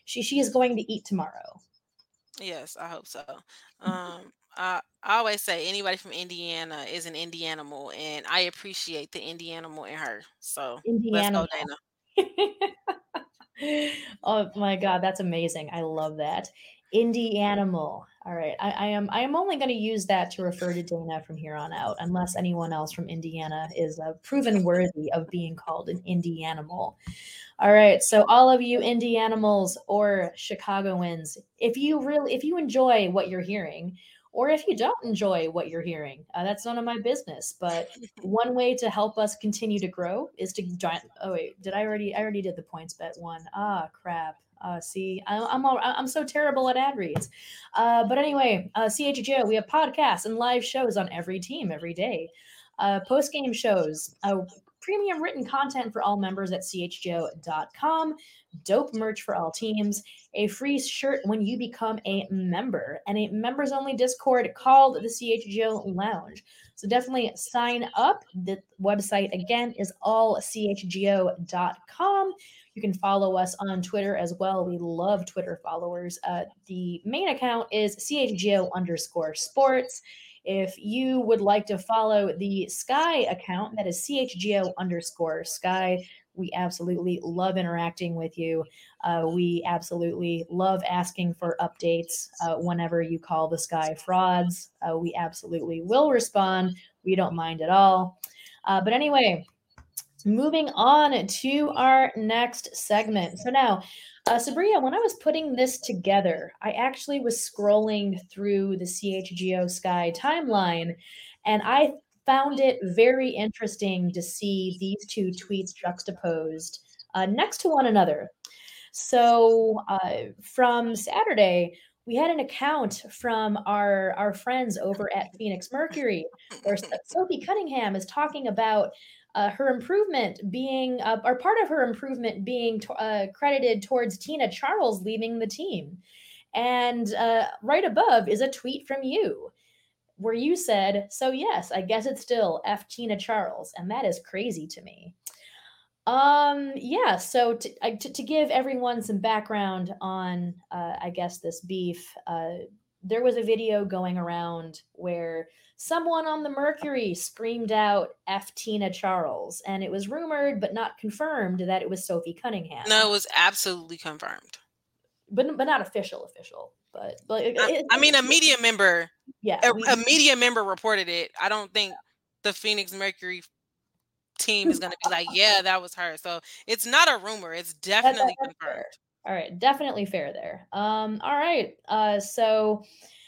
she is going to eat tomorrow. Yes, I hope so. I always say anybody from Indiana is an Indianimal, and I appreciate the Indianimal in her. So let's Indiana. go, Dana. Oh my God, that's amazing. I love that. Indie animal. All right. I am only going to use that to refer to Dana from here on out, unless anyone else from Indiana is proven worthy of being called an indie animal. All right. So all of you indie animals or Chicagoans, if you enjoy what you're hearing, or if you don't enjoy what you're hearing, that's none of my business. But one way to help us continue to grow is to join. Oh wait, I already did the points bet one. Ah, crap. See, I'm so terrible at ad reads. But anyway, CHGO, we have podcasts and live shows on every team every day. Post game shows, premium written content for all members at chgo.com, dope merch for all teams, a free shirt when you become a member, and a members only Discord called the CHGO Lounge. So definitely sign up. The website again is allchgo.com. You can follow us on Twitter as well. We love Twitter followers. The main account is CHGO_sports. If you would like to follow the Sky account, that is CHGO_Sky. We absolutely love interacting with you. We absolutely love asking for updates whenever you call the Sky frauds. We absolutely will respond. We don't mind at all. But anyway, moving on to our next segment. So now, Sabria, when I was putting this together, I actually was scrolling through the CHGO Sky timeline, and I found it very interesting to see these two tweets juxtaposed next to one another. So from Saturday, we had an account from our friends over at Phoenix Mercury, where Sophie Cunningham is talking about her improvement being, or part of her improvement being credited towards Tina Charles leaving the team. And right above is a tweet from you where you said, "So yes, I guess it's still F Tina Charles," and that is crazy to me. Yeah, so to give everyone some background on, I guess, this beef, there was a video going around where someone on the Mercury screamed out F Tina Charles, and it was rumored but not confirmed that it was Sophie Cunningham. No, it was absolutely confirmed. But not official. But I mean, a media member. Yeah, A media member reported it. I don't think the Phoenix Mercury team is going to be like, yeah, that was her. So it's not a rumor. It's definitely confirmed. Fair. All right, definitely fair there. All right. So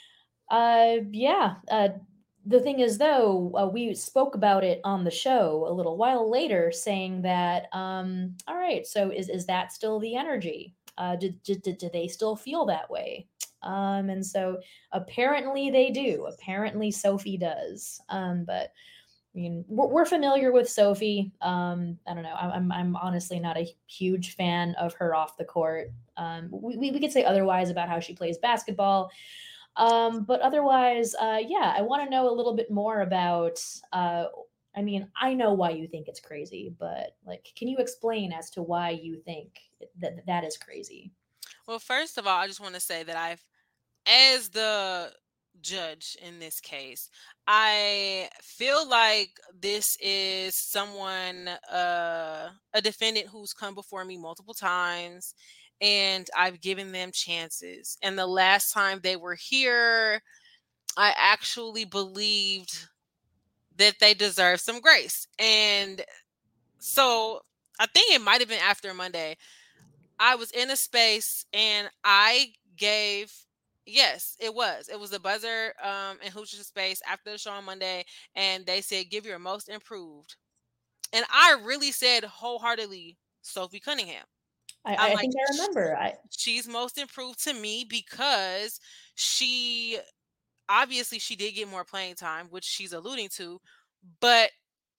yeah. The thing is, though, we spoke about it on the show a little while later, saying that, all right, so is that still the energy? Do they still feel that way? And so apparently they do. Apparently Sophie does. But I mean, we're familiar with Sophie. I don't know. I'm honestly not a huge fan of her off the court. We could say otherwise about how she plays basketball. But otherwise, yeah, I want to know a little bit more about. I mean, I know why you think it's crazy, but like, can you explain as to why you think that is crazy? Well, first of all, I just want to say that as the judge in this case, I feel like this is someone, a defendant who's come before me multiple times, and I've given them chances. And the last time they were here, I actually believed that they deserve some grace. And so I think it might have been after Monday. I was in a space and I gave, yes, it was a buzzer in Hoochie Space after the show on Monday, and they said give your most improved, and I really said wholeheartedly Sophie Cunningham. I'm I like, think I remember. she's most improved to me because she obviously she did get more playing time, which she's alluding to, but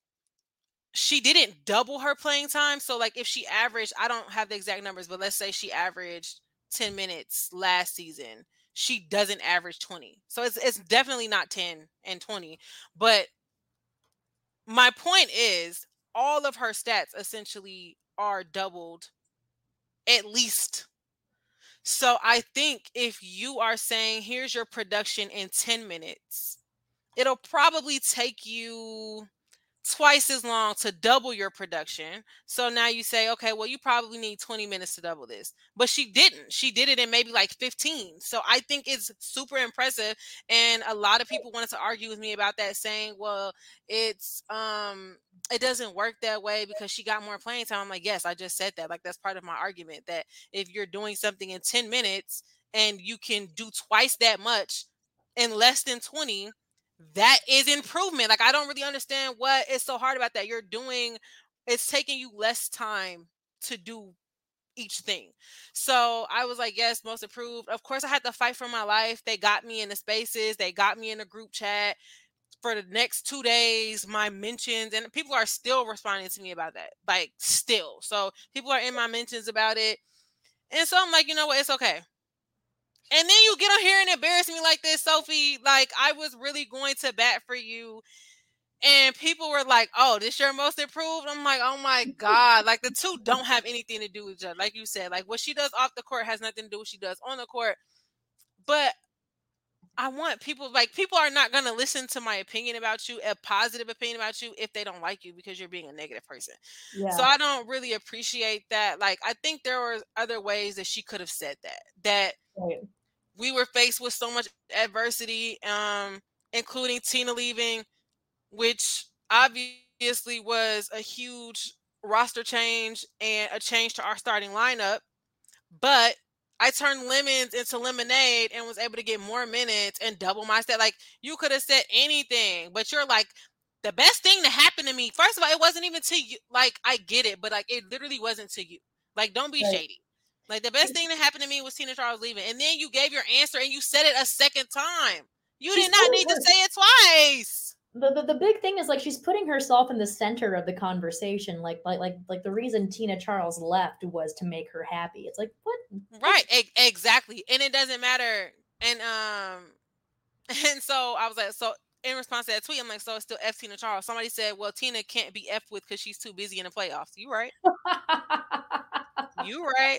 she didn't double her playing time. So like if she averaged, I don't have the exact numbers, but let's say she averaged 10 minutes last season, she doesn't average 20. So it's definitely not 10 and 20. But my point is all of her stats essentially are doubled at least. So I think if you are saying, here's your production in 10 minutes, it'll probably take you twice as long to double your production. So now you say, okay, well, you probably need 20 minutes to double this. But she didn't. She did it in maybe like 15. So I think it's super impressive. And a lot of people wanted to argue with me about that, saying, well, it doesn't work that way because she got more playing time. I'm like, yes, I just said that. Like, that's part of my argument, that if you're doing something in 10 minutes and you can do twice that much in less than 20, that is improvement. Like, I don't really understand what is so hard about that. It's taking you less time to do each thing. So I was like, yes, most improved. Of course, I had to fight for my life. They got me in the spaces, they got me in the group chat for the next 2 days. My mentions, and people are still responding to me about that, like, still. So people are in my mentions about it. And so I'm like, you know what? It's okay. And then you get on here and embarrass me like this, Sophie. Like, I was really going to bat for you. And people were like, oh, this your most improved? I'm like, oh my God. Like, the two don't have anything to do with each other. Like you said, like, what she does off the court has nothing to do with what she does on the court. But I want people, like, people are not going to listen to my opinion about you, a positive opinion about you, if they don't like you because you're being a negative person. So Yeah. I don't really appreciate that. Like, I think there were other ways that she could have said that Right. we were faced with so much adversity, including Tina leaving, which obviously was a huge roster change and a change to our starting lineup. But I turned lemons into lemonade and was able to get more minutes and double my stat. Like, you could have said anything, but you're like, the best thing to happen to me. First of all, it wasn't even to you. Like, I get it, but like, it literally wasn't to you. Like, don't be Right. shady. Like, the best thing that happened to me was Tina Charles leaving. And then you gave your answer and you said it a second time. You She's did not need to say it twice. The big thing is, like, she's putting herself in the center of the conversation. Like the reason Tina Charles left was to make her happy. It's like, what? Right. Exactly. And it doesn't matter. And and so I was like, so in response to that tweet, I'm like, so it's still F Tina Charles. Somebody said, well, Tina can't be F with because she's too busy in the playoffs. You right. You right.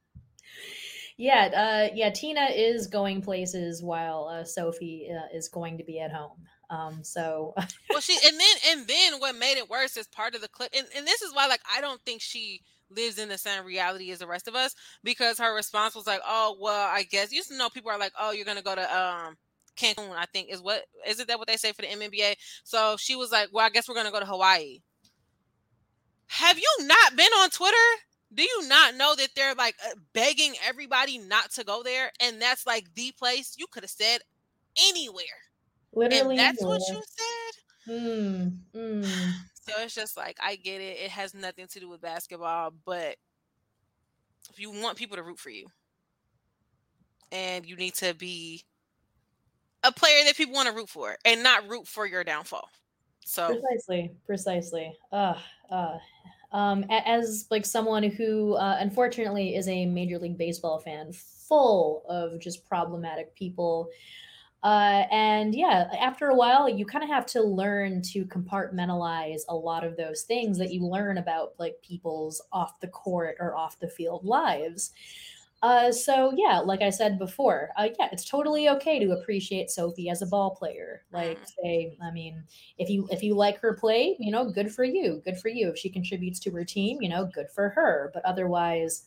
Yeah, Tina is going places while Sophie is going to be at home. So Well, and then what made it worse is part of the clip, and this is why, like, I don't think she lives in the same reality as the rest of us, because her response was like, oh, well, I guess, you used to know, people are like, oh, you're gonna go to Cancun, I think isn't that what they say for the MNBA? So she was like, well, I guess we're gonna go to Hawaii. Have you not been on Twitter? Do you not know that they're like begging everybody not to go there? And that's like the place. You could have said anywhere. And literally that's what anywhere. you said? So it's just like, I get it. It has nothing to do with basketball. But if you want people to root for you, and you need to be a player that people want to root for and not root for your downfall. So Precisely. As like someone who unfortunately is a Major League Baseball fan, full of just problematic people. And yeah, after a while, you kind of have to learn to compartmentalize a lot of those things that you learn about like people's off the court or off the field lives. So yeah, like I said before, yeah, it's totally okay to appreciate Sophie as a ball player. Like, say, I mean, if you like her play, good for you, good for you. If she contributes to her team, good for her. But otherwise,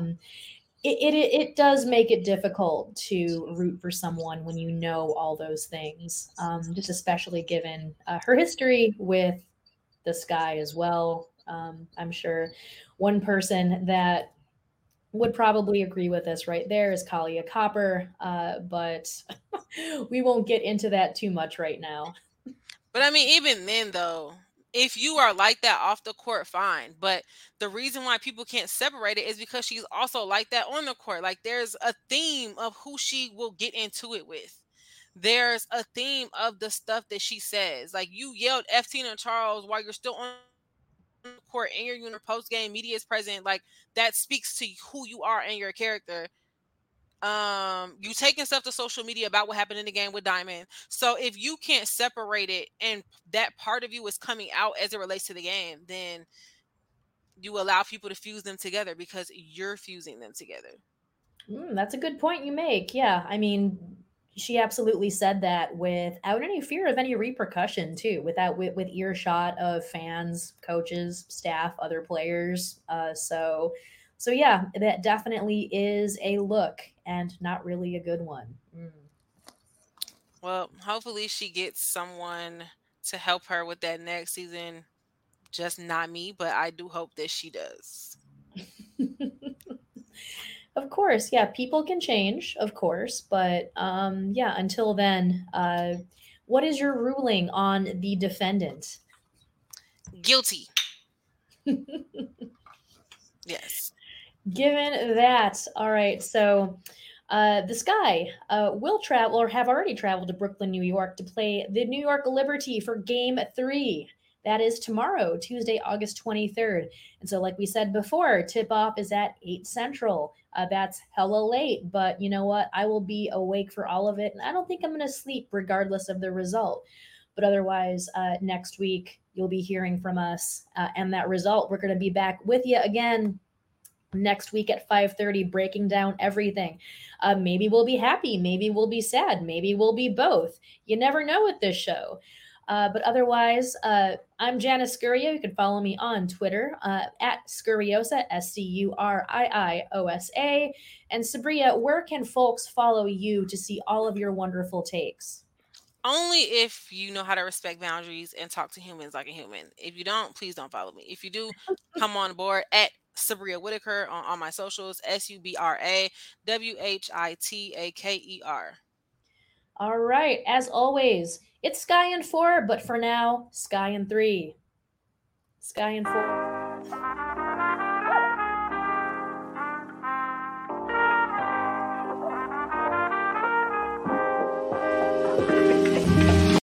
it does make it difficult to root for someone when you know all those things. Just especially given her history with the Sky as well. I'm sure one person that would probably agree with us right there is Kalia Copper, but we won't get into that too much right now. But I mean, even then, though, if you are like that off the court, fine. But the reason why people can't separate it is because she's also like that on the court. Like, there's a theme of who she will get into it with. There's a theme of the stuff that she says. Like, you yelled F Tina Charles while you're still on the court and you're in post game, media is present. Like, that speaks to who you are and your character. You taking stuff to social media about what happened in the game with Diamond. So if you can't separate it and that part of you is coming out as it relates to the game, then you allow people to fuse them together because you're fusing them together. That's a good point you make. Yeah, I mean, she absolutely said that without any fear of any repercussion, too, without with earshot of fans, coaches, staff, other players. So yeah, that definitely is a look and not really a good one. Well, hopefully she gets someone to help her with that next season. Just not me, but I do hope that she does. Of course, yeah, people can change, of course, but yeah, until then, what is your ruling on the defendant? Guilty. Yes. Given that, all right, so the Sky will travel or have already traveled to Brooklyn, New York to play the New York Liberty for game 3. That is tomorrow, Tuesday, August 23rd. And so, like we said before, tip off is at 8 Central. That's hella late, but you know what? I will be awake for all of it, and I don't think I'm going to sleep regardless of the result. But otherwise, next week, you'll be hearing from us and that result. We're going to be back with you again next week at 5:30 breaking down everything. Maybe we'll be happy, maybe we'll be sad, maybe we'll be both. You never know with this show. But otherwise, I'm Janice Scurio. You can follow me on Twitter at Scuriosa, Scuriiosa. And Sabria, where can folks follow you to see all of your wonderful takes? Only if you know how to respect boundaries and talk to humans like a human. If you don't, please don't follow me. If you do, come on board at Sabria Whitaker on all my socials, SUBRAWHITAKER. All right, as always, it's Sky in 4, but for now, Sky in 3. Sky in 4.